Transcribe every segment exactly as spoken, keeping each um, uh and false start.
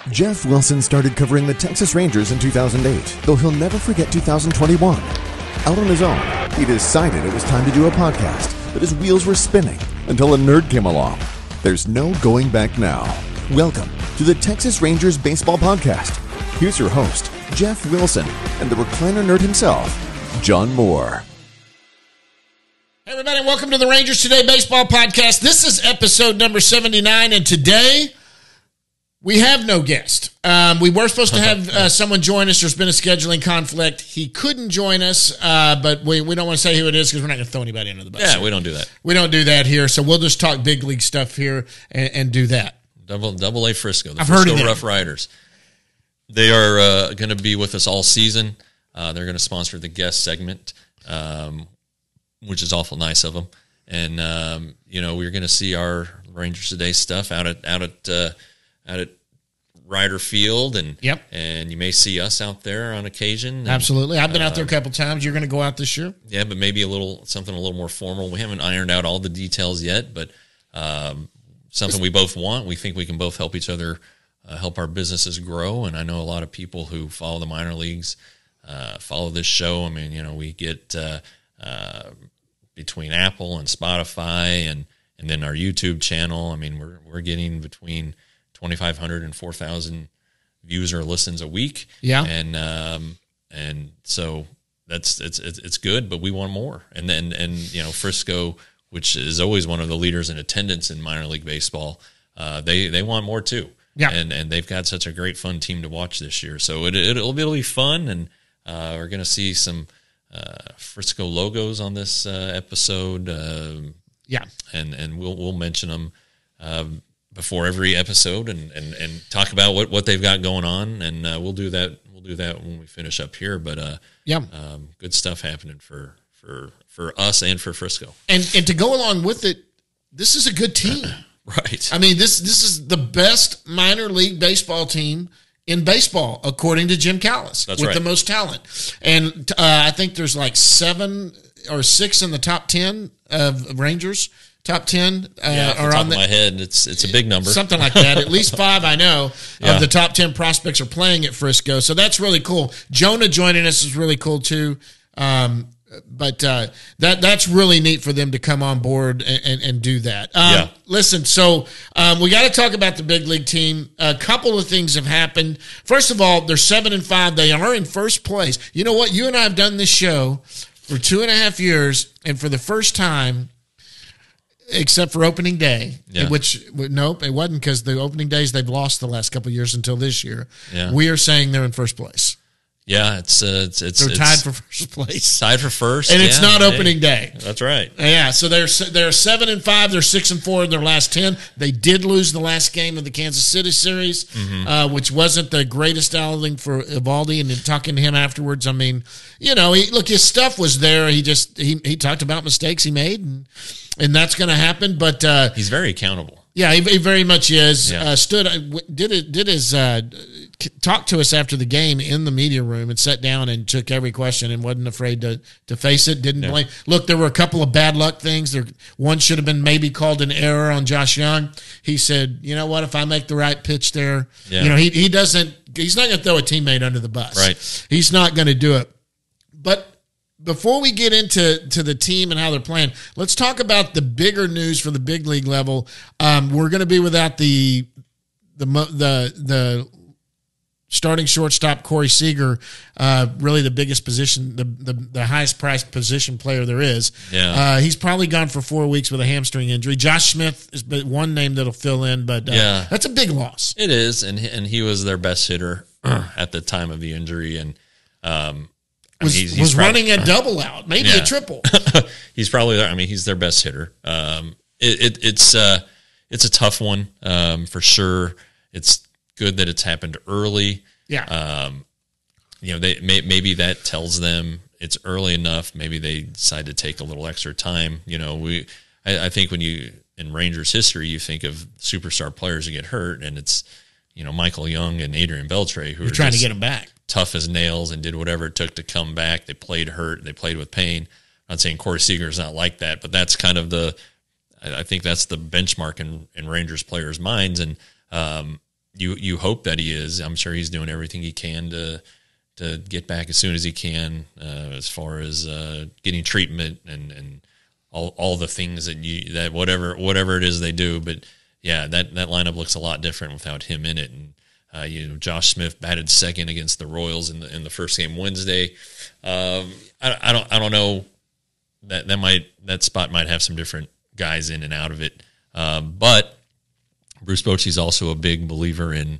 Jeff Wilson started covering the Texas Rangers in two thousand eight, though he'll never forget two thousand twenty-one. Out on his own, he decided it was time to do a podcast, but his wheels were spinning until a nerd came along. There's no going back now. Welcome to the Texas Rangers Baseball Podcast. Here's your host, Jeff Wilson, and the recliner nerd himself, John Moore. Hey everybody, welcome to the Rangers Today Baseball Podcast. This is episode number seventy-nine, and today we have no guest. Um, we were supposed to have uh, someone join us. There's been a scheduling conflict. He couldn't join us, uh, but we, we don't want to say who it is because we're not going to throw anybody under the bus. Yeah, here. we don't do that. We don't do that here, so we'll just talk big league stuff here and, and do that. Double Double A Frisco, the I've Frisco heard of Rough Riders. They are uh, going to be with us all season. Uh, they're going to sponsor the guest segment, um, which is awful nice of them. And um, you know, we're going to see our Rangers Today stuff out at out at uh, out at Ryder Field, and yep. and you may see us out there on occasion. And, Absolutely, I've been out there a um, couple times. You're going to go out this year? Yeah, but maybe a little something a little more formal. We haven't ironed out all the details yet, but um, something we both want. We think we can both help each other, uh, help our businesses grow. And I know a lot of people who follow the minor leagues, uh, follow this show. I mean, you know, we get uh, uh, between Apple and Spotify, and and then our YouTube channel. I mean, we're we're getting between twenty-five hundred and four thousand views or listens a week. Yeah. And, um, and so that's, it's, it's, it's good, but we want more. And then, and, you know, Frisco, which is always one of the leaders in attendance in minor league baseball, uh, they, they want more too. Yeah. And, and they've got such a great fun team to watch this year. So it, it, it'll be, it'll be fun. And, uh, we're going to see some, uh, Frisco logos on this, uh, episode. Uh, yeah. And, and we'll, we'll mention them, um, before every episode, and, and, and talk about what, what they've got going on, and uh, we'll do that. We'll do that when we finish up here. But uh, yeah, um, good stuff happening for for for us and for Frisco. And and to go along with it, this is a good team, right? I mean this this is the best minor league baseball team in baseball, according to Jim Callis, That's with right. the most talent. And uh, I think there's like seven or six in the top ten of Rangers. Top ten uh, yeah, off the are top on the, of my head. It's it's a big number, something like that. At least five, I know, yeah. of the top ten prospects are playing at Frisco, so that's really cool. Jonah joining us is really cool too. Um, but uh, that that's really neat for them to come on board and, and, and do that. Um, Yeah. Listen, so um, we got to talk about the big league team. A couple of things have happened. First of all, they're seven and five. They are in first place. You know what? You and I have done this show for two and a half years, and for the first time, except for opening day, Yeah. which nope, it wasn't, because the opening days they've lost the last couple of years until this year. Yeah. We are saying they're in first place. Yeah, it's uh, it's it's They're it's tied for first place, tied for first, and it's yeah, not hey, opening day. That's right. Yeah, so they're they're seven and five. They're six and four in their last ten. They did lose the last game of the Kansas City series, Mm-hmm. uh, which wasn't the greatest outing for Eovaldi. And then talking to him afterwards, I mean, you know, he, look, his stuff was there. He just he he talked about mistakes he made, and and that's going to happen. But uh, He's very accountable. yeah, he, he very much is. Yeah. Uh, stood did it did his uh, talk to us after the game in the media room and sat down and took every question and wasn't afraid to to face it. Didn't Yeah. blame. Look, there were a couple of bad luck things. There one should have been maybe called an error on Josh Young. He said, you know what, if I make the right pitch there, Yeah. you know, he he doesn't. He's not going to throw a teammate under the bus. Right. He's not going to do it. But before we get into to the team and how they're playing, let's talk about the bigger news for the big league level. Um, we're going to be without the the the the starting shortstop Corey Seager, uh, really the biggest position, the, the the highest priced position player there is. Yeah. Uh, he's probably gone for four weeks with a hamstring injury. Josh Smith is one name that'll fill in, but uh, Yeah. that's a big loss. It is, and he- and he was their best hitter at the time of the injury, and um, I mean, Was, he's, he's was probably- running a double out, maybe Yeah. a triple. he's probably there. I mean, he's their best hitter. Um, it, it, it's uh, it's a tough one um, for sure. It's good that it's happened early. Yeah. Um, you know, they may, maybe that tells them it's early enough. Maybe they decide to take a little extra time. You know, we I, I think when you in Rangers history, you think of superstar players who get hurt, and it's you know Michael Young and Adrian Beltre who You're are trying to just get him back. tough as nails and did whatever it took to come back. They played hurt. They played with pain. I'm not saying Corey Seager is not like that, but that's kind of the, I think that's the benchmark in, in Rangers players' minds. And, um, you you hope that he is. I'm sure he's doing everything he can to to get back as soon as he can, uh, as far as uh, getting treatment and, and all all the things that you that whatever whatever it is they do. But yeah, that, that lineup looks a lot different without him in it. And uh, you know, Josh Smith batted second against the Royals in the in the first game Wednesday. Um, I, I don't I don't know that that might that spot might have some different guys in and out of it, um, but Bruce Bochy's also a big believer in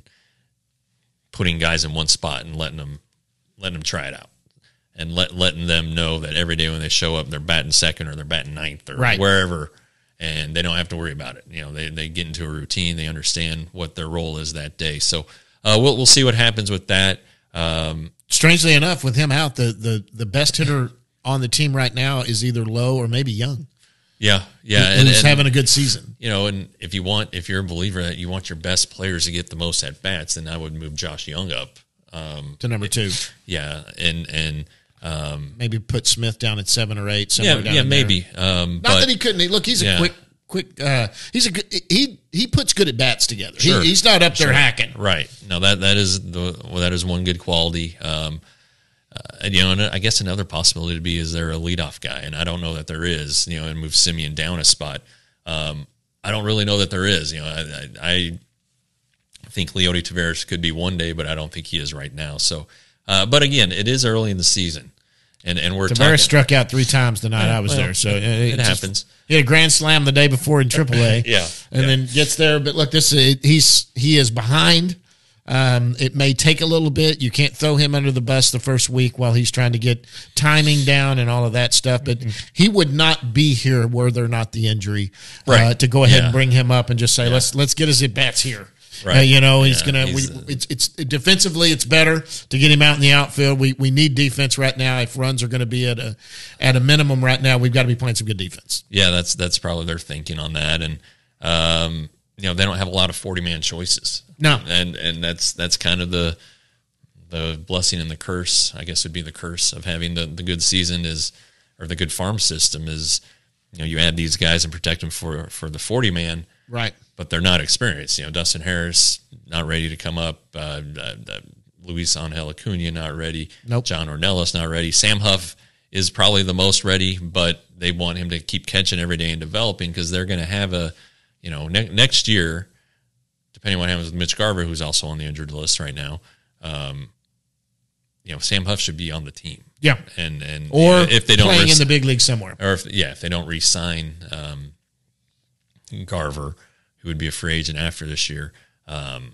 putting guys in one spot and letting them letting them try it out, and let letting them know that every day when they show up, they're batting second or they're batting ninth or right. wherever, and they don't have to worry about it. You know, they they get into a routine, they understand what their role is that day. So uh, we'll we'll see what happens with that. Um, Strangely enough, with him out, the the the best hitter on the team right now is either Lowe or maybe Young. Yeah, yeah, who's and, and, having a good season. You know, and if you want, if you're a believer that you want your best players to get the most at bats, then I would move Josh Young up um, to number two. Yeah, and and um, maybe put Smith down at seven or eight. Yeah, down yeah, in maybe. Um, Not but, that he couldn't. Look, he's a yeah. quick, quick. Uh, he's a good, he he puts good at bats together. Sure. He, he's not up there sure. hacking. Right. No, that that is the well, that is one good quality. Um, uh, and, you know, and I guess another possibility to be is there a leadoff guy, and I don't know that there is. You know, and move Simeon down a spot. Um, I don't really know that there is. You know, I, I, I think Leody Taveras could be one day, but I don't think he is right now. So, uh, but again, it is early in the season, and and we're Taveras talking, struck out three times the night yeah, I was well, there, so it, it just, happens. He had a grand slam the day before in triple A, yeah, and yeah. then gets there. But look, this he's he is behind. Um, it may take a little bit. You can't throw him under the bus the first week while he's trying to get timing down and all of that stuff. But mm-hmm. he would not be here were there not the injury, right. uh, to go ahead yeah. and bring him up and just say, yeah. let's let's get his at bats here. Right. Uh, you know, he's yeah, gonna. he's, we, it's it's defensively, it's better to get him out in the outfield. We we need defense right now. If runs are going to be at a at a minimum right now, we've got to be playing some good defense. Yeah, that's that's probably their thinking on that, and um, you know, they don't have a lot of forty man choices. No, and and that's that's kind of the the blessing and the curse. I guess would be the curse of having the, the good season is, or the good farm system is, you know, you add these guys and protect them for for the forty man, right? But they're not experienced. You know, Dustin Harris not ready to come up. Uh, uh, uh, Luis Angel Acuna not ready. Nope. John Ornelas not ready. Sam Huff is probably the most ready, but they want him to keep catching every day and developing because they're going to have a, you know, ne- next year, depending on what happens with Mitch Garver, who's also on the injured list right now, um, you know, Sam Huff should be on the team. Yeah, and and or if they don't playing re- in the big league somewhere, or if yeah, if they don't re-sign um, Garver, who would be a free agent after this year, um,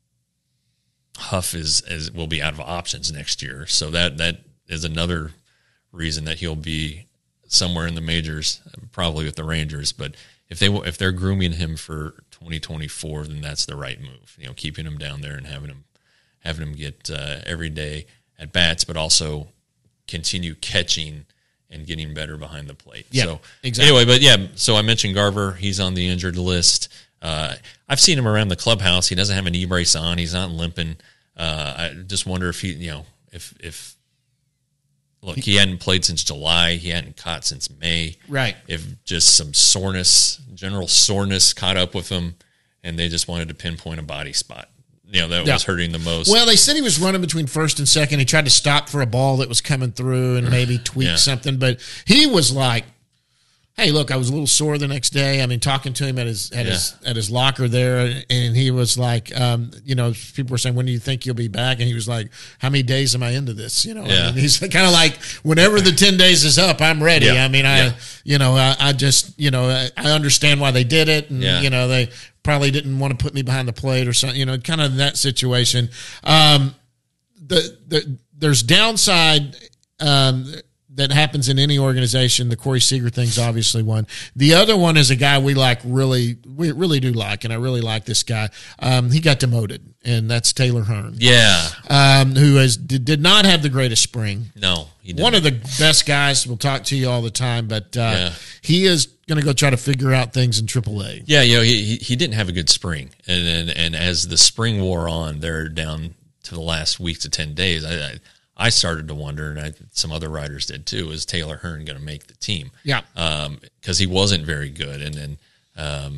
Huff is, is will be out of options next year. So that that is another reason that he'll be somewhere in the majors, probably with the Rangers. But if they if they're grooming him for twenty twenty-four, then that's the right move. You know, keeping him down there and having him having him get uh, every day at bats, but also continue catching and getting better behind the plate. Yeah, so exactly. Anyway, but yeah, so I mentioned Garver. He's on the injured list. Uh, I've seen him around the clubhouse. He doesn't have a knee brace on. He's not limping. Uh, I just wonder if he, you know, if if look, he hadn't played since July. He hadn't caught since May. Right. If just some soreness, general soreness, caught up with him, and they just wanted to pinpoint a body spot. You know, that yeah. was hurting the most. Well, they said he was running between first and second. He tried to stop for a ball that was coming through and maybe tweak yeah. something, but he was like, hey, look, I was a little sore the next day. I mean, talking to him at his at yeah. his at his locker there, and he was like, um, you know, people were saying, when do you think you'll be back? And he was like, how many days am I into this? You know, yeah. I mean, he's kind of like, whenever the ten days is up, I'm ready. Yeah. I mean, I, yeah. you know, I, I just, you know, I, I understand why they did it, and yeah. you know, they probably didn't want to put me behind the plate or something. You know, kind of that situation. Um, the the there's downside. Um, that happens in any organization. The Corey Seager thing's obviously one. The other one is a guy we like really, we really do like, and I really like this guy. Um, he got demoted, and that's Taylor Hearn. Yeah. Um, who has did, did not have the greatest spring. No, he didn't. One of the best guys. We'll talk to you all the time, but uh, yeah. he is going to go try to figure out things in triple A. Yeah, you know, he he, he didn't have a good spring, and, and and as the spring wore on, they're down to the last week to ten days. I. I I started to wonder, and I, some other writers did too, is Taylor Hearn going to make the team? Yeah. Because um, he wasn't very good. And then, um,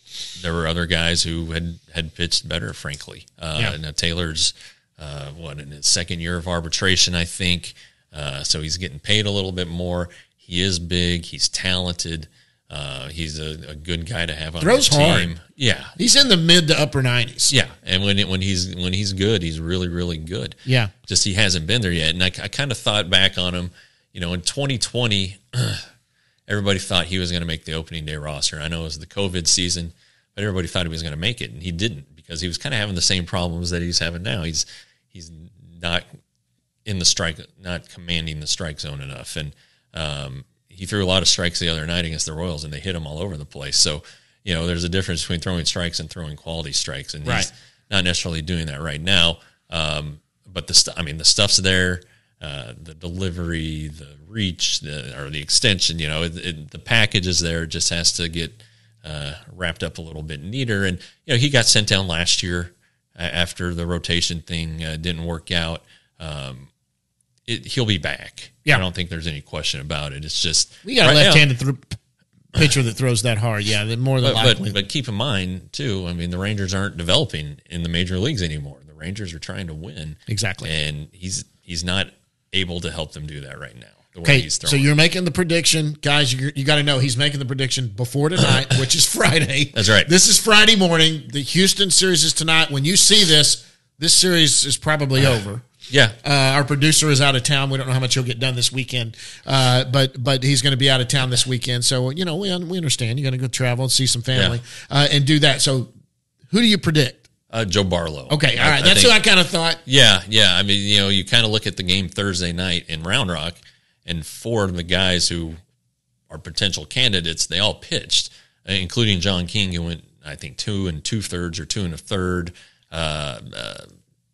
there were other guys who had, had pitched better, frankly. Uh, Yeah. Now Taylor's, uh, what, in his second year of arbitration, I think. Uh, so he's getting paid a little bit more. He is big. He's talented. Uh, he's a, a good guy to have on Throws the team. hard. Yeah. He's in the mid to upper nineties. Yeah. And when it, when he's when he's good, he's really, really good. Yeah. Just he hasn't been there yet. And I, I kind of thought back on him, you know, in twenty twenty, everybody thought he was going to make the opening day roster. I know it was the COVID season, but everybody thought he was going to make it, and he didn't because he was kind of having the same problems that he's having now. He's he's not in the strike, not commanding the strike zone enough, and um, he threw a lot of strikes the other night against the Royals, and they hit him all over the place. So, you know, there's a difference between throwing strikes and throwing quality strikes, and Right. he's not necessarily doing that right now. Um, but the st- I mean, the stuff's there. Uh, the delivery, the reach, the, or the extension, you know, it, it, the package is there. It just has to get uh, wrapped up a little bit neater. And, you know, he got sent down last year uh, after the rotation thing uh, didn't work out. Um, it, he'll be back. Yeah. I don't think there's any question about it. It's just We got a right now- left-handed th- pitcher that throws that hard. Yeah, that more than but, likely. but but keep in mind too. I mean, the Rangers aren't developing in the major leagues anymore. The Rangers are trying to win Exactly. and he's he's not able to help them do that right now. The way Okay, he's throwing. so you're making the prediction, guys. You you got to know he's making the prediction before tonight, which is Friday. That's right. This is Friday morning. The Houston series is tonight. When you see this, this series is probably over. yeah. Uh, our producer is out of town. We don't know how much he'll get done this weekend, uh, but but he's going to be out of town this weekend. So you know we we understand. You're going to go travel and see some family uh, and do that. So who do you predict? Uh, Joe Barlow. Okay, all I- right. I That's think- who I kind of thought. Yeah, yeah. I mean, you know, you kind of look at the game Thursday night in Round Rock, and four of the guys who are potential candidates, they all pitched, uh, including John King, who went, I think, two and two thirds or two and a third, uh, uh,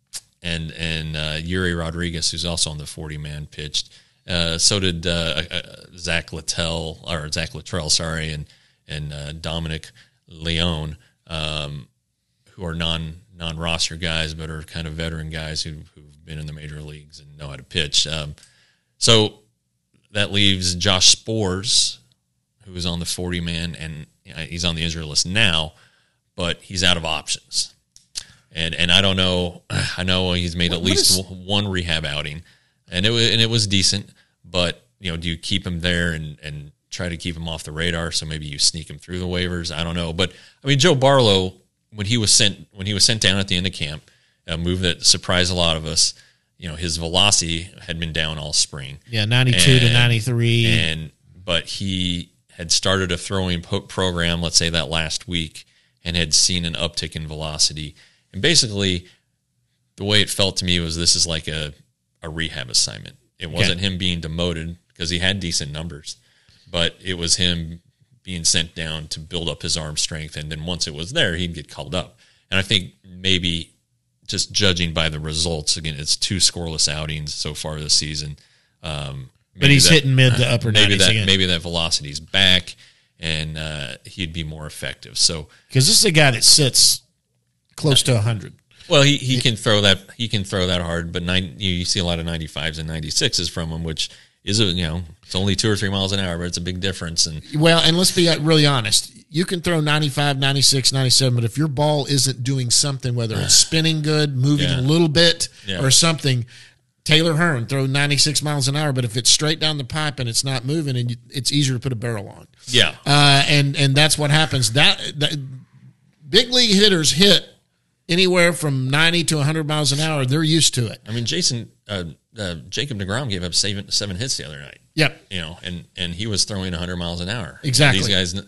and and uh, Yuri Rodriguez, who's also on the forty man, pitched. Uh, so did uh, uh, Zach Littell or Zach Luttrell, sorry, and and uh, Dominic Leone. Um, who are non non roster guys, but are kind of veteran guys who who've been in the major leagues and know how to pitch. Um, so that leaves Josh Spores, who is on the forty man, and you know, he's on the injury list now, but he's out of options. And and I don't know. I know he's made What- at what least is- one rehab outing, and it was and it was decent. But you know, do you keep him there and and try to keep him off the radar? So maybe you sneak him through the waivers. I don't know. But I mean, Joe Barlow, when he was sent when he was sent down at the end of camp, a move that surprised a lot of us. You know, his velocity had been down all spring. Yeah, ninety-two to And- ninety-three. And but he had started a throwing po- program, let's say that last week, and had seen an uptick in velocity. And basically, the way it felt to me was this is like a, a rehab assignment. It wasn't him being demoted because he had decent numbers, but it was him being sent down to build up his arm strength. And then once it was there, he'd get called up. And I think maybe just judging by the results, again, it's two scoreless outings so far this season. Um, but he's that- hitting mid to upper maybe nineties that again. maybe that velocity's back and uh, he'd be more effective. So, Because this is a guy that sits close to one hundred. well, he, he can throw that he can throw that hard, but nine, you, you see a lot of ninety-fives and ninety-sixes from him, which is a you know it's only two or three miles an hour, but it's a big difference. And Well, and let's be really honest. You can throw ninety-five, ninety-six, ninety-seven, but if your ball isn't doing something, whether it's spinning good, moving Yeah. a little bit, Yeah. or something, Taylor Hearn throw ninety-six miles an hour, but if it's straight down the pipe and it's not moving, and you, it's easier to put a barrel on. yeah, Uh, and and that's what happens. That, that big league hitters hit anywhere from ninety to one hundred miles an hour. They're used to it. I mean, Jason uh, uh, Jacob deGrom gave up seven seven hits the other night. Yep. You know, and and he was throwing one hundred miles an hour. Exactly. These guys,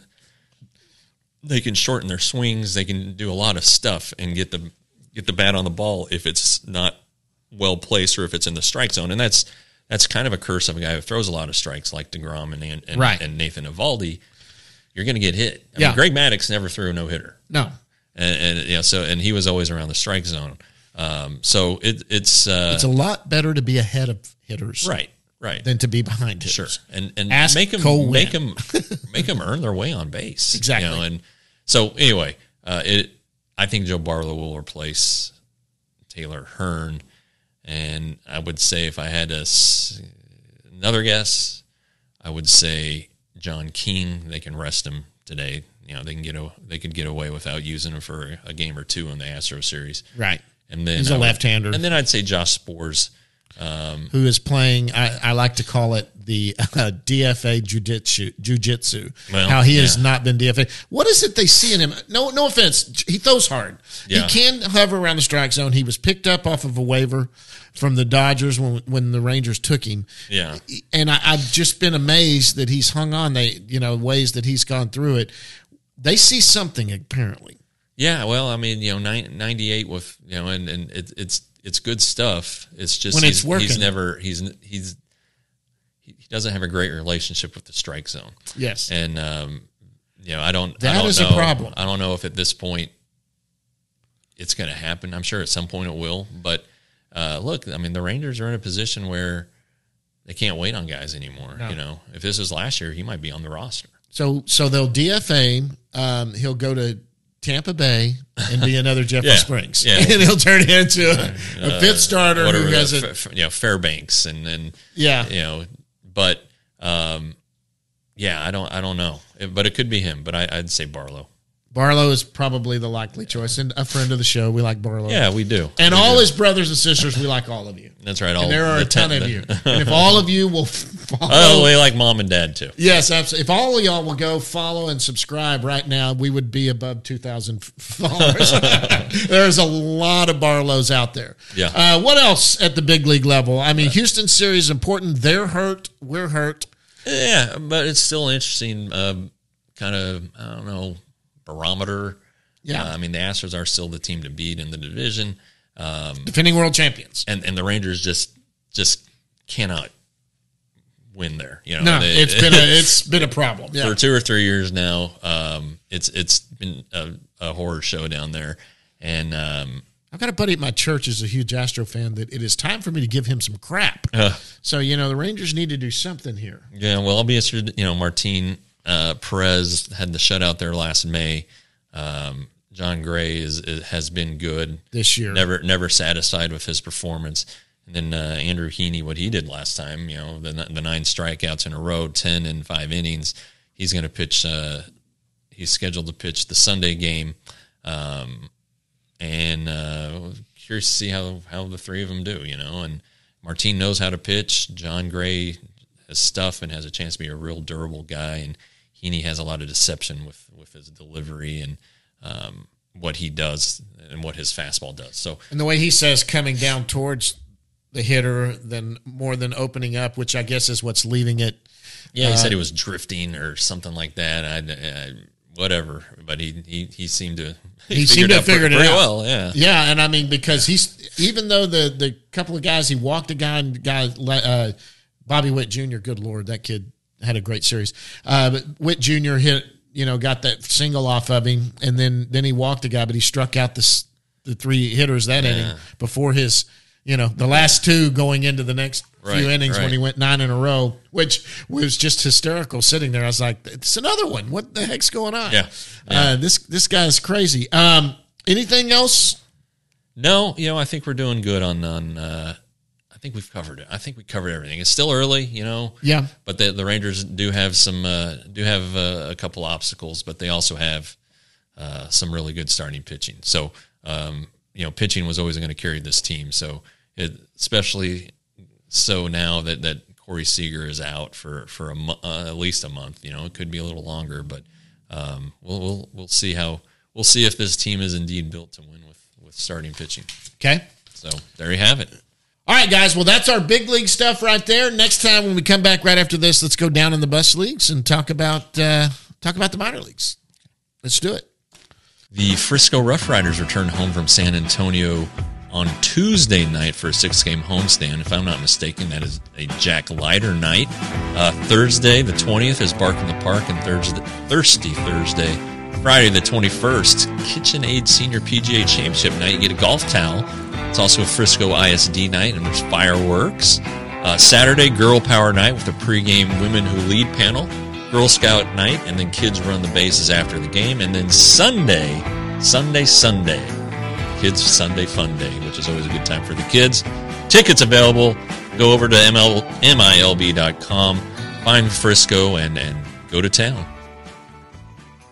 they can shorten their swings. They can do a lot of stuff and get the get the bat on the ball if it's not well placed or if it's in the strike zone. And that's that's kind of a curse of a guy who throws a lot of strikes like DeGrom and and, and, Right. and Nathan Eovaldi. You're going to get hit. I Yeah. mean, Greg Maddux never threw a no hitter, No. and, and you know, so and he was always around the strike zone. Um, so it, it's uh, It's a lot better to be ahead of hitters right, right. than to be behind hitters. Sure, and and Ask make them Cole make Winn. them make them earn their way on base. Exactly. You know, and so anyway, uh, it. I think Joe Barlow will replace Taylor Hearn, and I would say if I had a, s- another guess, I would say John King. They can rest him today. you know they can get a, they could get away without using him for a game or two in the Astro series. Right. And then he's a I would- left-hander. And then I'd say Josh Spores. Um, who is playing, I, I like to call it the uh, D F A jiu-jitsu. jiu-jitsu. Well, How he has yeah. not been D F A. What is it they see in him? No no offense. He throws hard. Yeah. He can hover around the strike zone. He was picked up off of a waiver from the Dodgers when when the Rangers took him. Yeah. And I, I've just been amazed that he's hung on, they, you know, ways that he's gone through it. They see something, apparently. Yeah, well, I mean, you know, nine, ninety-eight with, you know, and, and it, it's it's good stuff. It's just When it's he's, working. he's never he's he's he doesn't have a great relationship with the strike zone. Yes. And um, you know, I don't That I don't is a know, problem. I don't know if at this point it's going to happen. I'm sure at some point it will, but uh, look, I mean, the Rangers are in a position where they can't wait on guys anymore, No. you know. If this was last year, he might be on the roster. So so they'll D F A him. Um, he'll go to Tampa Bay and be another Jeffrey Yeah. Springs. Yeah. And he'll turn into a, a fifth starter Whatever, who has uh, a F- F- you know, Fairbanks and then yeah. you know, but um, yeah, I don't, I don't know, It- but it could be him. But I, I'd say Barlow. Barlow is probably the likely choice, and a friend of the show. We like Barlow. Yeah, we do. And We all do. his brothers and sisters, we like all of you. That's right. All And there are the a ton ten- of you. And if all of you will follow, Oh, we like mom and dad too. yes, absolutely. If all of y'all will go follow and subscribe right now, we would be above two thousand followers. There's a lot of Barlows out there. Yeah. Uh, what else at the big league level? I mean, Houston series is important. They're hurt. We're hurt. Yeah, but it's still interesting. Um, kind of, I don't know, barometer. Yeah. Uh, I mean, the Astros are still the team to beat in the division, um, Defending world champions. and and the Rangers just just cannot win there. You know, No, They- it's been a it's been a problem. Yeah. for two or three years now. Um, it's it's been a, a horror show down there, and um, I've got a buddy at my church who's a huge Astro fan that it is time for me to give him some crap. uh, So, you know, the Rangers need to do something here. yeah. Well, I'll be interested. You know, Martin uh, Perez had the shutout there last May. Um, John Gray is, is has been good This year. Never never satisfied with his performance. And then uh, Andrew Heaney, what he did last time, you know, the the nine strikeouts in a row, ten in five innings. He's going to pitch. Uh, he's scheduled to pitch the Sunday game, um, and uh, curious to see how how the three of them do. You know, and Martin knows how to pitch. John Gray has stuff and has a chance to be a real durable guy, and Heaney has a lot of deception with with his delivery and um, what he does and what his fastball does. So. And the way he says coming down towards the hitter than more than opening up, which I guess is what's leaving it. Yeah, he Uh, said he was drifting or something like that. I, I whatever, but he he, he seemed to He seemed to have figured it pretty out. well. Yeah, Yeah, and I mean because he's even though the the couple of guys he walked a guy and guy uh, Bobby Witt Junior Good Lord, that kid had a great series. Uh, but Witt Junior hit, you know, got that single off of him, and then then he walked a guy, but he struck out the s- the three hitters that inning before his, you know, the last two going into the next Right, few innings when right. he went nine in a row, which was just hysterical. Sitting there, I was like, "It's another one. What the heck's going on?" Yeah, Uh, this this guy's crazy. Um, anything else? No, you know, I think we're doing good on on. Uh, I think we've covered it. I think we covered everything. It's still early, you know. Yeah. But the the Rangers do have some uh, do have uh, a couple obstacles, but they also have uh, some really good starting pitching. So um, you know, pitching was always going to carry this team. So it, especially so now that that Corey Seager is out for for a mo- uh, at least a month. You know, it could be a little longer, but um, we'll we'll we'll see how we'll see if this team is indeed built to win with with starting pitching. Okay. So there you have it. All right, guys. Well, that's our big league stuff right there. Next time when we come back right after this, let's go down in the bus leagues and talk about uh, talk about the minor leagues. Let's do it. The Frisco Rough Riders returned home from San Antonio on Tuesday night for a six-game homestand. If I'm not mistaken, that is a Jack Leiter night. Uh, Thursday, the twentieth, is Bark in the Park, and Thursday, Thirsty Thursday. Friday, the twenty-first, KitchenAid Senior P G A Championship night. You get a golf towel. It's also a Frisco I S D night, and there's fireworks. Uh, Saturday, Girl Power Night with a pregame Women Who Lead panel. Girl Scout night, and then kids run the bases after the game. And then Sunday, Sunday, Sunday, Kids Sunday Fun Day, which is always a good time for the kids. Tickets available. Go over to M I L B dot com, find Frisco, and, and go to town.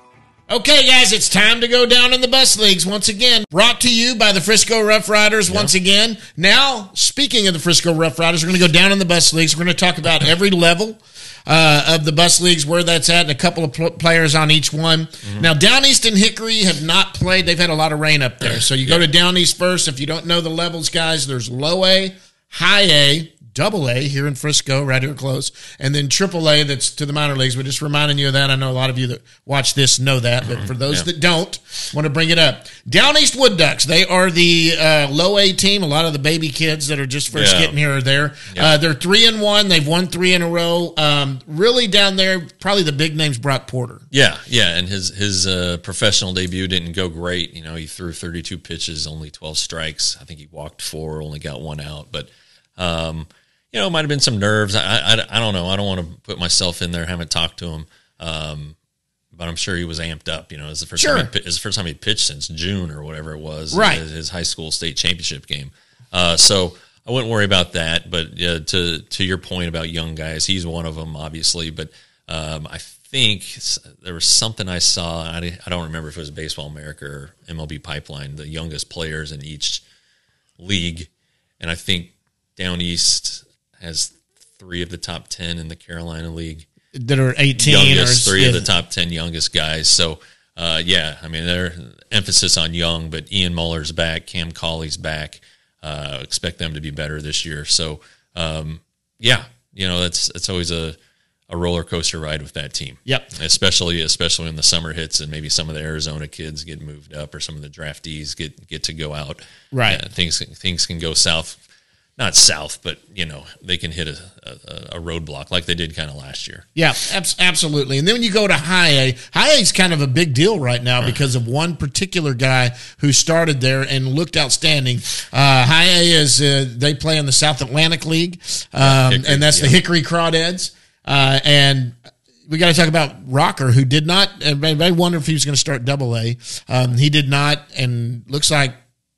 Okay, guys, it's time to go down in the bus leagues once again. Brought to you by the Frisco Rough Riders once again. Now, speaking of the Frisco Rough Riders, we're going to go down in the bus leagues. We're going to talk about every level uh, of the bus leagues, where that's at, and a couple of pl- players on each one. Mm-hmm. Now, Down East and Hickory have not played. They've had a lot of rain up there. So you yeah. go to Down East first. If you don't know the levels, guys, there's low A, high A, double A here in Frisco, right here close, and then triple A that's to the minor leagues. We're just reminding you of that. I know a lot of you that watch this know that, but for those yeah. that don't, want to bring it up. Down East Wood Ducks, they are the uh, low A team. A lot of the baby kids that are just first yeah. getting here are there. Yeah. Uh, they're three and one. They've won three in a row. Um, really down there, probably the big name's Brock Porter. Yeah, yeah, and his his uh, professional debut didn't go great. You know, he threw thirty-two pitches, only twelve strikes. I think he walked four, only got one out, but. Um, You know, it might have been some nerves. I, I, I don't know. I don't want to put myself in there. Haven't talked to him, um, but I'm sure he was amped up. You know, it's the first sure. time. He, it's the first time he pitched since June or whatever it was. Right. His, his high school state championship game. Uh, so I wouldn't worry about that. But uh, to to your point about young guys, he's one of them, obviously. But um, I think there was something I saw. I, I don't remember if it was Baseball America or M L B Pipeline. The youngest players in each league, and I think Down East has three of the top ten in the Carolina League that are eighteen. Youngest, or, three yeah. of the top ten youngest guys. So, uh, yeah, I mean, their emphasis on young, but Ian Muller's back, Cam Colley's back. Uh, expect them to be better this year. So, um, yeah, you know, that's it's always a, a roller coaster ride with that team. Yep. Especially especially when the summer hits and maybe some of the Arizona kids get moved up or some of the draftees get get to go out. Right. Uh, things things can go south. Not south, but, you know, they can hit a, a, a roadblock like they did kind of last year. Yeah, ab- absolutely. And then when you go to high A, high A is kind of a big deal right now because of one particular guy who started there and looked outstanding. Uh, high A is, uh, they play in the South Atlantic League, um, yeah, Hickory, and that's yeah. the Hickory Crawdads. Uh, and we got to talk about Rocker, who did not, everybody wondered if he was going to start double A. Um, he did not, and looks like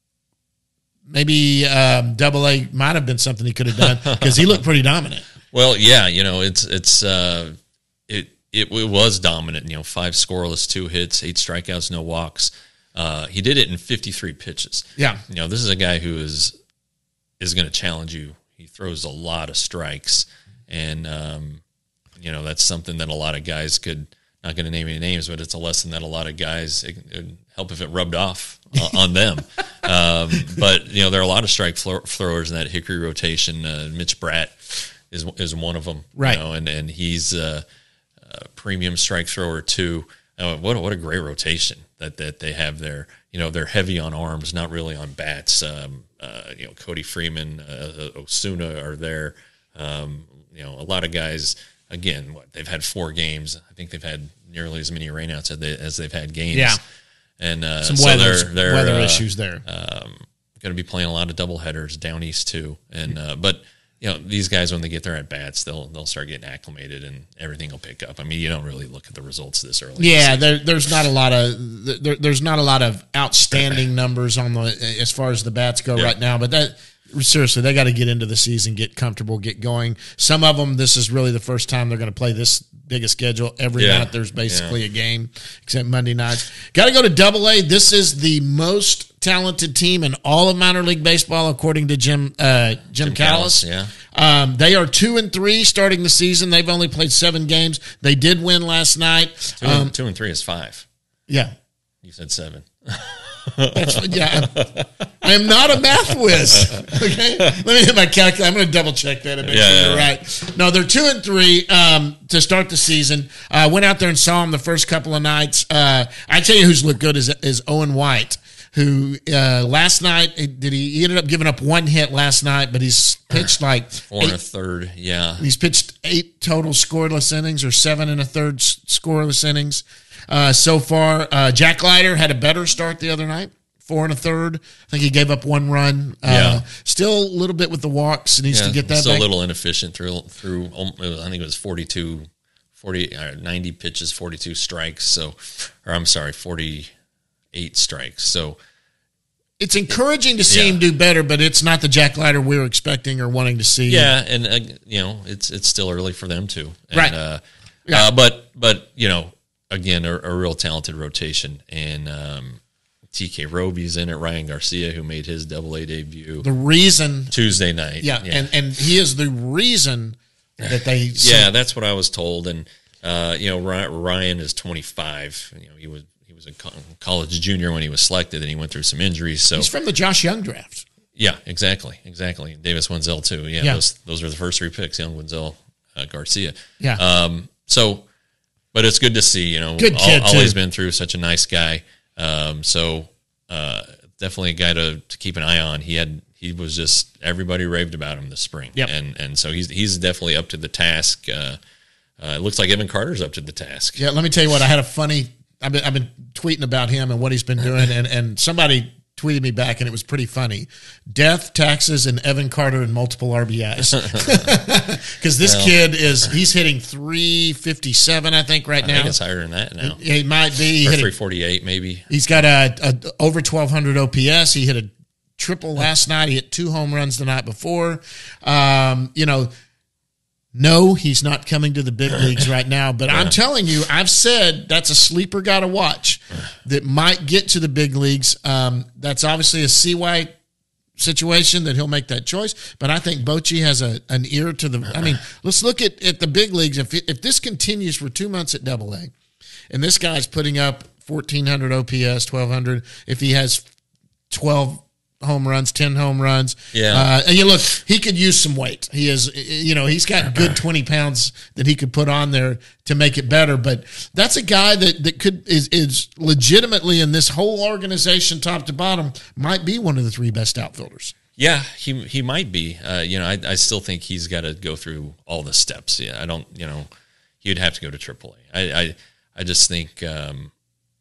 maybe um, double A might have been something he could have done because he looked pretty dominant. Well, yeah, you know, it's it's uh, it, it it was dominant. You know, five scoreless, two hits, eight strikeouts, no walks. Uh, he did it in fifty-three pitches. Yeah, you know, this is a guy who is is going to challenge you. He throws a lot of strikes, and um, you know that's something that a lot of guys could. Not going to name any names, but it's a lesson that a lot of guys, it would help if it rubbed off on them. Um, but, you know, there are a lot of strike throwers in that Hickory rotation. Uh, Mitch Bratt is is one of them. Right. You know, and, and he's a, a premium strike thrower, too. Uh, what, a, what a great rotation that, that they have there. You know, they're heavy on arms, not really on bats. Um, uh, you know, Cody Freeman, uh, Osuna are there. Um, you know, a lot of guys – Again, what they've had four games. I think they've had nearly as many rainouts as, they, as they've had games. Yeah, and uh, some so weather, they're, they're, weather uh, issues there. Um, going to be playing a lot of doubleheaders down east too. And uh, but you know these guys when they get their at bats, they'll they'll start getting acclimated and everything will pick up. I mean, you don't really look at the results this early. Yeah, there, there's not a lot of there, there's not a lot of outstanding numbers on the as far as the bats go yeah. right now, but that. Seriously, they got to get into the season, get comfortable, get going. Some of them, this is really the first time they're going to play this big a schedule. Every yeah. night there's basically yeah. a game, except Monday nights. Got to go to double A. This is the most talented team in all of minor league baseball, according to Jim uh, Jim, Jim Callis. Yeah, um, they are two and three starting the season. They've only played seven games. They did win last night. Two, um, and, two and three is five. Yeah, you said seven. That's, yeah, I am not a math whiz. Okay, let me hit my calculator. I'm going to double check that and make yeah, sure yeah, you're yeah. right. No, they're two and three um, to start the season. I uh, went out there and saw them the first couple of nights. Uh, I tell you, who's looked good is is Owen White, who uh, last night did he, he ended up giving up one hit last night, but he's pitched like four and a third. Yeah, he's pitched eight total scoreless innings or seven and a third scoreless innings. Uh, so far, uh, Jack Leiter had a better start the other night, four and a third. I think he gave up one run. Uh, yeah. Still a little bit with the walks. Needs yeah, to get that still back. a little inefficient through, through I think it was forty-two, forty, uh, ninety pitches, forty-two strikes. So, or I'm sorry, forty-eight strikes. So, it's encouraging to see yeah. him do better, but it's not the Jack Leiter we were expecting or wanting to see. Yeah, and, uh, you know, it's it's still early for them, too. And, right. Uh, yeah. uh, but, but, you know, again, a, a real talented rotation. And um, T K Roby's in it, Ryan Garcia, who made his double A debut The reason, Tuesday night. yeah, yeah, and and he is the reason that they, yeah, that's what I was told. And uh, you know, Ryan is twenty-five. You know, he was he was a college junior when he was selected, and he went through some injuries. So he's from the Josh Young draft. Yeah, exactly, exactly. Davis Wenzel too. Yeah, yeah. those those are the first three picks. Young, Wenzel, uh, Garcia. Yeah. Um. So, but it's good to see. You know, good kid all, always too. been through. Such a nice guy. Um. So, uh, definitely a guy to, to keep an eye on. He had he was just everybody raved about him this spring. Yep. And and so he's he's definitely up to the task. Uh, uh, it looks like Evan Carter's up to the task. Yeah. Let me tell you what. I had a funny. I've been I've been tweeting about him and what he's been doing, and and somebody tweeted me back, and it was pretty funny. Death, taxes, and Evan Carter and multiple R B Is. Because this well, kid is, he's hitting three fifty-seven, I think, right I now. I think it's higher than that now. He might be. Or he three forty-eight, maybe. He's got a, a over twelve hundred O P S. He hit a triple last night. He hit two home runs the night before. Um, you know, no, he's not coming to the big leagues right now. But yeah. I'm telling you, I've said that's a sleeper guy to watch that might get to the big leagues. Um, that's obviously a C Y situation that he'll make that choice. But I think Bochy has a an ear to the – I mean, let's look at, at the big leagues. If if this continues for two months at Double A, and this guy's putting up fourteen hundred O P S, twelve hundred, if he has twelve – home runs, ten home runs. Yeah. Uh, and you look, he could use some weight. He is, you know, he's got good twenty pounds that he could put on there to make it better. But that's a guy that, that could, is, is legitimately in this whole organization, top to bottom, might be one of the three best outfielders. Yeah, he he might be. Uh, you know, I, I still think he's got to go through all the steps. Yeah, I don't, you know, he'd have to go to triple A. I, I, I just think, um,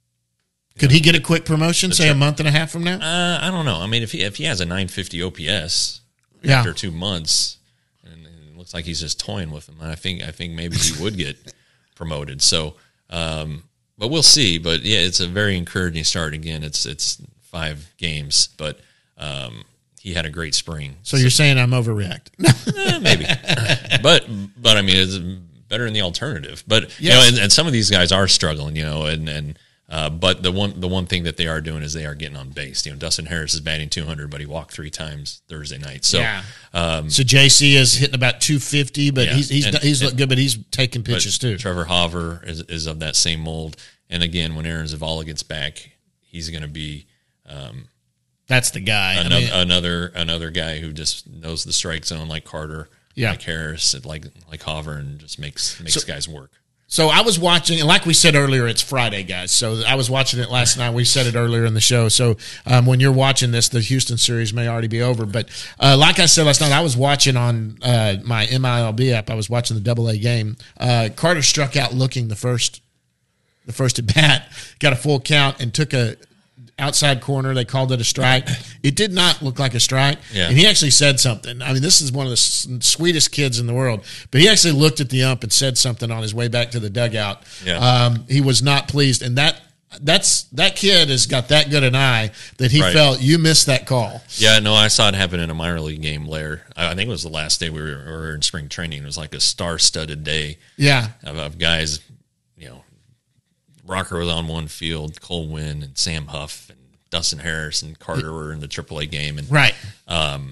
Could he get a quick promotion, say a month and a half from now? Uh, I don't know. I mean, if he if he has a nine fifty O P S yeah. after two months, and it looks like he's just toying with him, I think I think maybe he would get promoted. So, um, but we'll see. But yeah, it's a very encouraging start. Again, it's it's five games, but um, he had a great spring. So, so you're saying I'm overreacting? eh, maybe, but but I mean, it's better than the alternative. But yes. you know, and, and some of these guys are struggling. You know, and and. Uh, but the one the one thing that they are doing is they are getting on base. You know, Dustin Harris is batting two hundred, but he walked three times Thursday night. So, yeah. um, so J C is hitting about two fifty, but yeah. he's he's and, he's and, looked good, but he's taking pitches too. Trevor Hauver is is of that same mold. And again, when Aaron Zavala gets back, he's going to be um, that's the guy. Another, I mean, another another guy who just knows the strike zone like Carter, yeah. like Harris, like like Hauver, and just makes makes so, guys work. So I was watching, and like we said earlier, it's Friday, guys. So I was watching it last night. We said it earlier in the show. So um, when you're watching this, the Houston series may already be over. But uh, like I said last night, I was watching on uh, my M I L B app. I was watching the Double A game. Uh, Carter struck out looking the first, the first at bat, got a full count, and took a outside corner. They called it a strike. It did not look like a strike. Yeah. And he actually said something. I mean, this is one of the sweetest kids in the world. But he actually looked at the ump and said something on his way back to the dugout. Yeah. Um, he was not pleased. And that that's that kid has got that good an eye that he right. felt you missed that call. Yeah, no, I saw it happen in a minor league game later. I think it was the last day we were, we were in spring training. It was like a star-studded day yeah. of, of guys, you know, Rocker was on one field, Cole Winn and Sam Huff and Dustin Harris and Carter were in the triple A game. And right. um,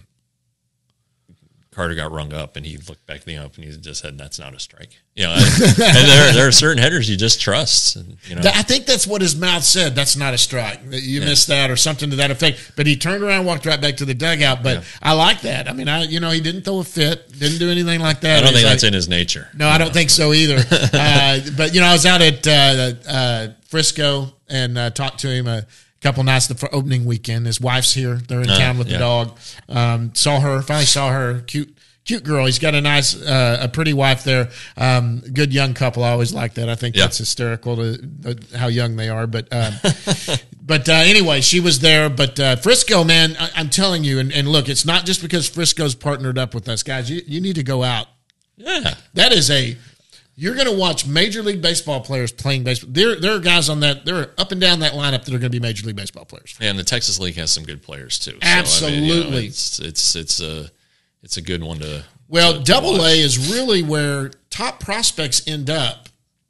Carter got rung up, and he looked back at the ump, and he just said, "That's not a strike." You know, and, and there there are certain headers you just trust. And, you know, I think that's what his mouth said. That's not a strike. You yeah. missed that, or something to that effect. But he turned around, and walked right back to the dugout. But yeah. I like that. I mean, I you know he didn't throw a fit, didn't do anything like that. I don't He's think like, that's in his nature. No, I don't think so either. uh, but you know, I was out at uh, uh, Frisco and uh, talked to him a couple nights the opening weekend. His wife's here. They're in uh, town with yeah. the dog. Um, saw her. Finally saw her. Cute. Cute girl. He's got a nice, uh, a pretty wife there. Um, good young couple. I always like that. I think yeah. that's hysterical to uh, how young they are. But, um, but uh, anyway, she was there. But uh, Frisco, man, I, I'm telling you, and, and look, it's not just because Frisco's partnered up with us, guys. You, you need to go out. Yeah, that is a. You're going to watch Major League Baseball players playing baseball. There, there are guys on that. They're up and down that lineup that are going to be Major League Baseball players. Yeah, and the Texas League has some good players too. So, Absolutely, I mean, you know, it's it's it's a. It's a good one to. Well, to, to Double watch. A is really where top prospects end up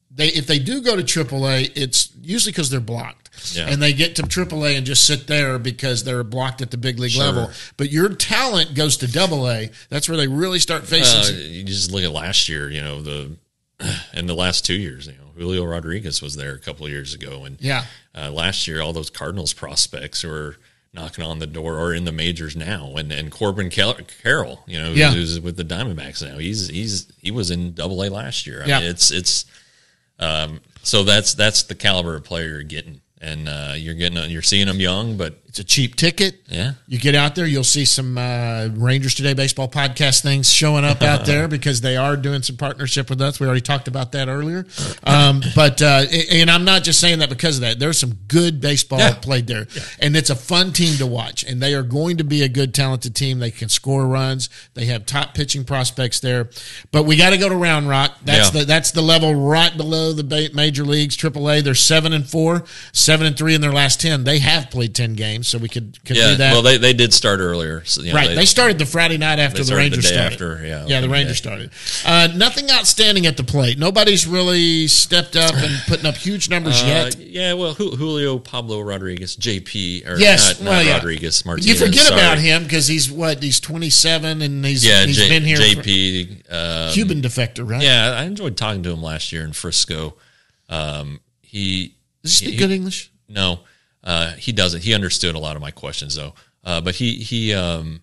they if they do go to triple A, it's usually because they're blocked. Yeah. And they get to triple A and just sit there because they're blocked at the big league Sure. level. But your talent goes to double A. That's where they really start facing. Uh, some- you just look at last year, you know, the and the last two years, you know, Julio Rodriguez was there a couple of years ago. And yeah. uh, last year, all those Cardinals prospects were knocking on the door or in the majors now. And and Corbin Car- Carroll, you know, Yeah. who's with the Diamondbacks now. He's he's he was in double A last year. I Yeah. mean, it's it's um, so that's that's the caliber of player you're getting. And uh, you're getting you're seeing them young, but It's a cheap ticket. yeah. You get out there, you'll see some uh, Rangers Today baseball podcast things showing up out there because they are doing some partnership with us. We already talked about that earlier. Um, but uh, and I'm not just saying that because of that. There's some good baseball Yeah. played there, and it's a fun team to watch. And they are going to be a good, talented team. They can score runs. They have top pitching prospects there. But we got to go to Round Rock. That's Yeah. the that's the level right below the ba- major leagues, triple A. They're seven and four, seven and three in their last ten. They have played ten games, so we could could Yeah, do that. well, they, they did start earlier. So, you know, Right, they, started the Friday night after they the started Rangers the day started. after, yeah, yeah, the opening Rangers day. started. Uh, nothing outstanding at the plate. Nobody's really stepped up and putting up huge numbers Uh, yet. yeah, well, Ju- Julio Pablo Rodriguez, J P, or Yes, not, not well, yeah. Rodriguez, Martinez. You forget sorry. about him because he's what? He's twenty-seven and he's Yeah, he's J, been here. J for- P. Um, Cuban defector, right? Yeah, I enjoyed talking to him last year in Frisco. Um, he Does he speak he- good English? No, uh, he doesn't. He understood a lot of my questions though. Uh, but he he um,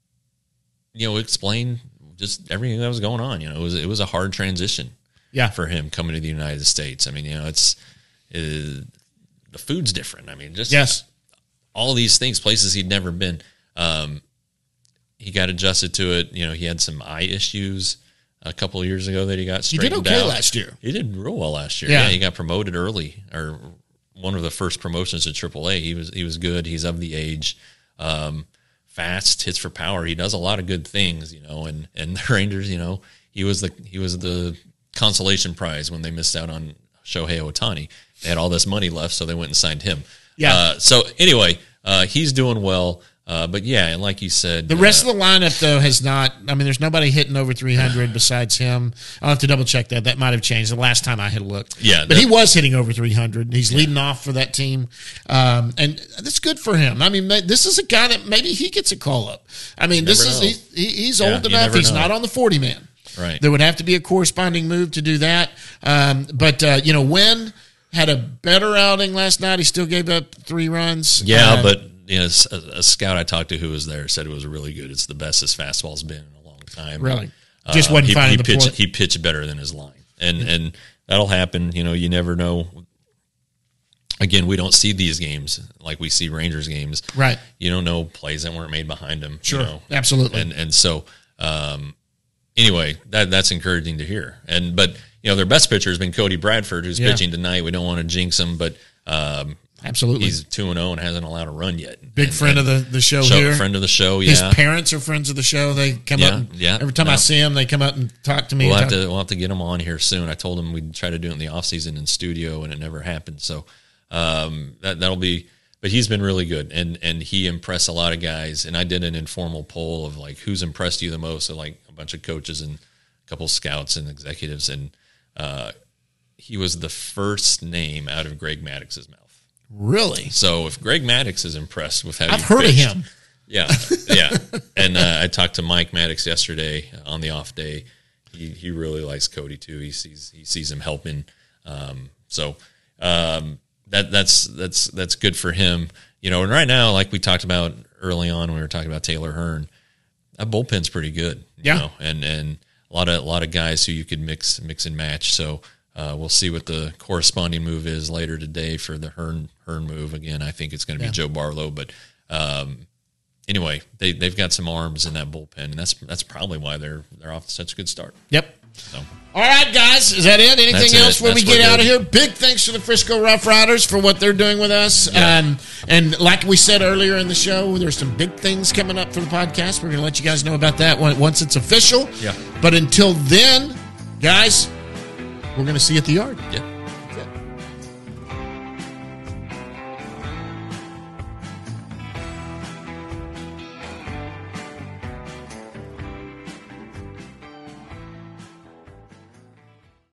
you know explained just everything that was going on. You know, it was it was a hard transition. Yeah. For him coming to the United States. I mean, you know, it's uh, the food's different. I mean, just Yes. all these things, places he'd never been. Um, he got adjusted to it. You know, he had some eye issues a couple of years ago that he got He straightened did okay out. last year. He did real well last year. Yeah. Yeah, he got promoted early, or one of the first promotions to triple A. He was he was good. He's of the age, um, fast, hits for power. He does a lot of good things, you know. And and the Rangers, you know, he was the he was the consolation prize when they missed out on Shohei Ohtani. They had all this money left, so they went and signed him. Yeah. Uh, so anyway, uh, he's doing well. Uh, but yeah, and like you said, The rest uh, of the lineup, though, has not. I mean, there's nobody hitting over three hundred besides him. I'll have to double check that. That might have changed the last time I had looked. Yeah, but that- he was hitting over three hundred. He's leading off for that team, um, and that's good for him. I mean, ma- this is a guy that maybe he gets a call up. I mean, this never is know. he, he- he's Yeah, old you enough. never He's know. not on the forty man. right. There would have to be a corresponding move to do that. Um, but uh, you know, Wynn had a better outing last night. He still gave up three runs. Yeah, Uh, but you know, a, a scout I talked to who was there said it was really good. It's the best his fastball's been in a long time. Really? Just wasn't he, finding he the pitched, point. He pitched better than his line, and and that'll happen. You know, you never know. Again, we don't see these games like we see Rangers games. Right. You don't know plays that weren't made behind him. Sure. You know? Absolutely. And and so um, anyway, that that's encouraging to hear. And but you know, their best pitcher has been Cody Bradford, who's Yeah. pitching tonight. We don't want to jinx him, but um, Absolutely. he's two and zero and hasn't allowed a run yet. Big And- friend and of the, the show, show, here. friend of the show. His Yeah, parents are friends of the show. They come Yeah, up. And, yeah, Every time I no. see them, they come up and talk to me. we'll and have talk- to we'll have to get him on here soon. I told him we'd try to do it in the off season in studio, and it never happened. So um, that that'll be. But he's been really good, and and he impressed a lot of guys. And I did an informal poll of like who's impressed you the most, so like a bunch of coaches and a couple scouts and executives, and uh, he was the first name out of Greg Maddox's mouth. Really? So if Greg Maddox is impressed with how I've you heard pitched, of him. yeah, yeah. And uh, I talked to Mike Maddox yesterday on the off day. He he really likes Cody too. He sees he sees him helping. Um, so um, that that's that's that's good for him. You know, and right now, like we talked about early on when we were talking about Taylor Hearn, that bullpen's pretty good. You Yeah. know? and and a lot of a lot of guys who you could mix mix and match. So. Uh, we'll see what the corresponding move is later today for the Hearn Hearn move. Again, I think it's going to be Yeah. Joe Barlow, but um, anyway, they they've got some arms in that bullpen, and that's that's probably why they're they're off to such a good start. Yep. So All right, guys. Is that it? Anything That's else it. before we That's get what out of it here? Big thanks to the Frisco Rough Riders for what they're doing with us. Yeah. Um, and like we said earlier in the show, there's some big things coming up for the podcast. We're going to let you guys know about that when- once it's official. Yeah. But until then, guys, we're going to see you at the yard. yeah.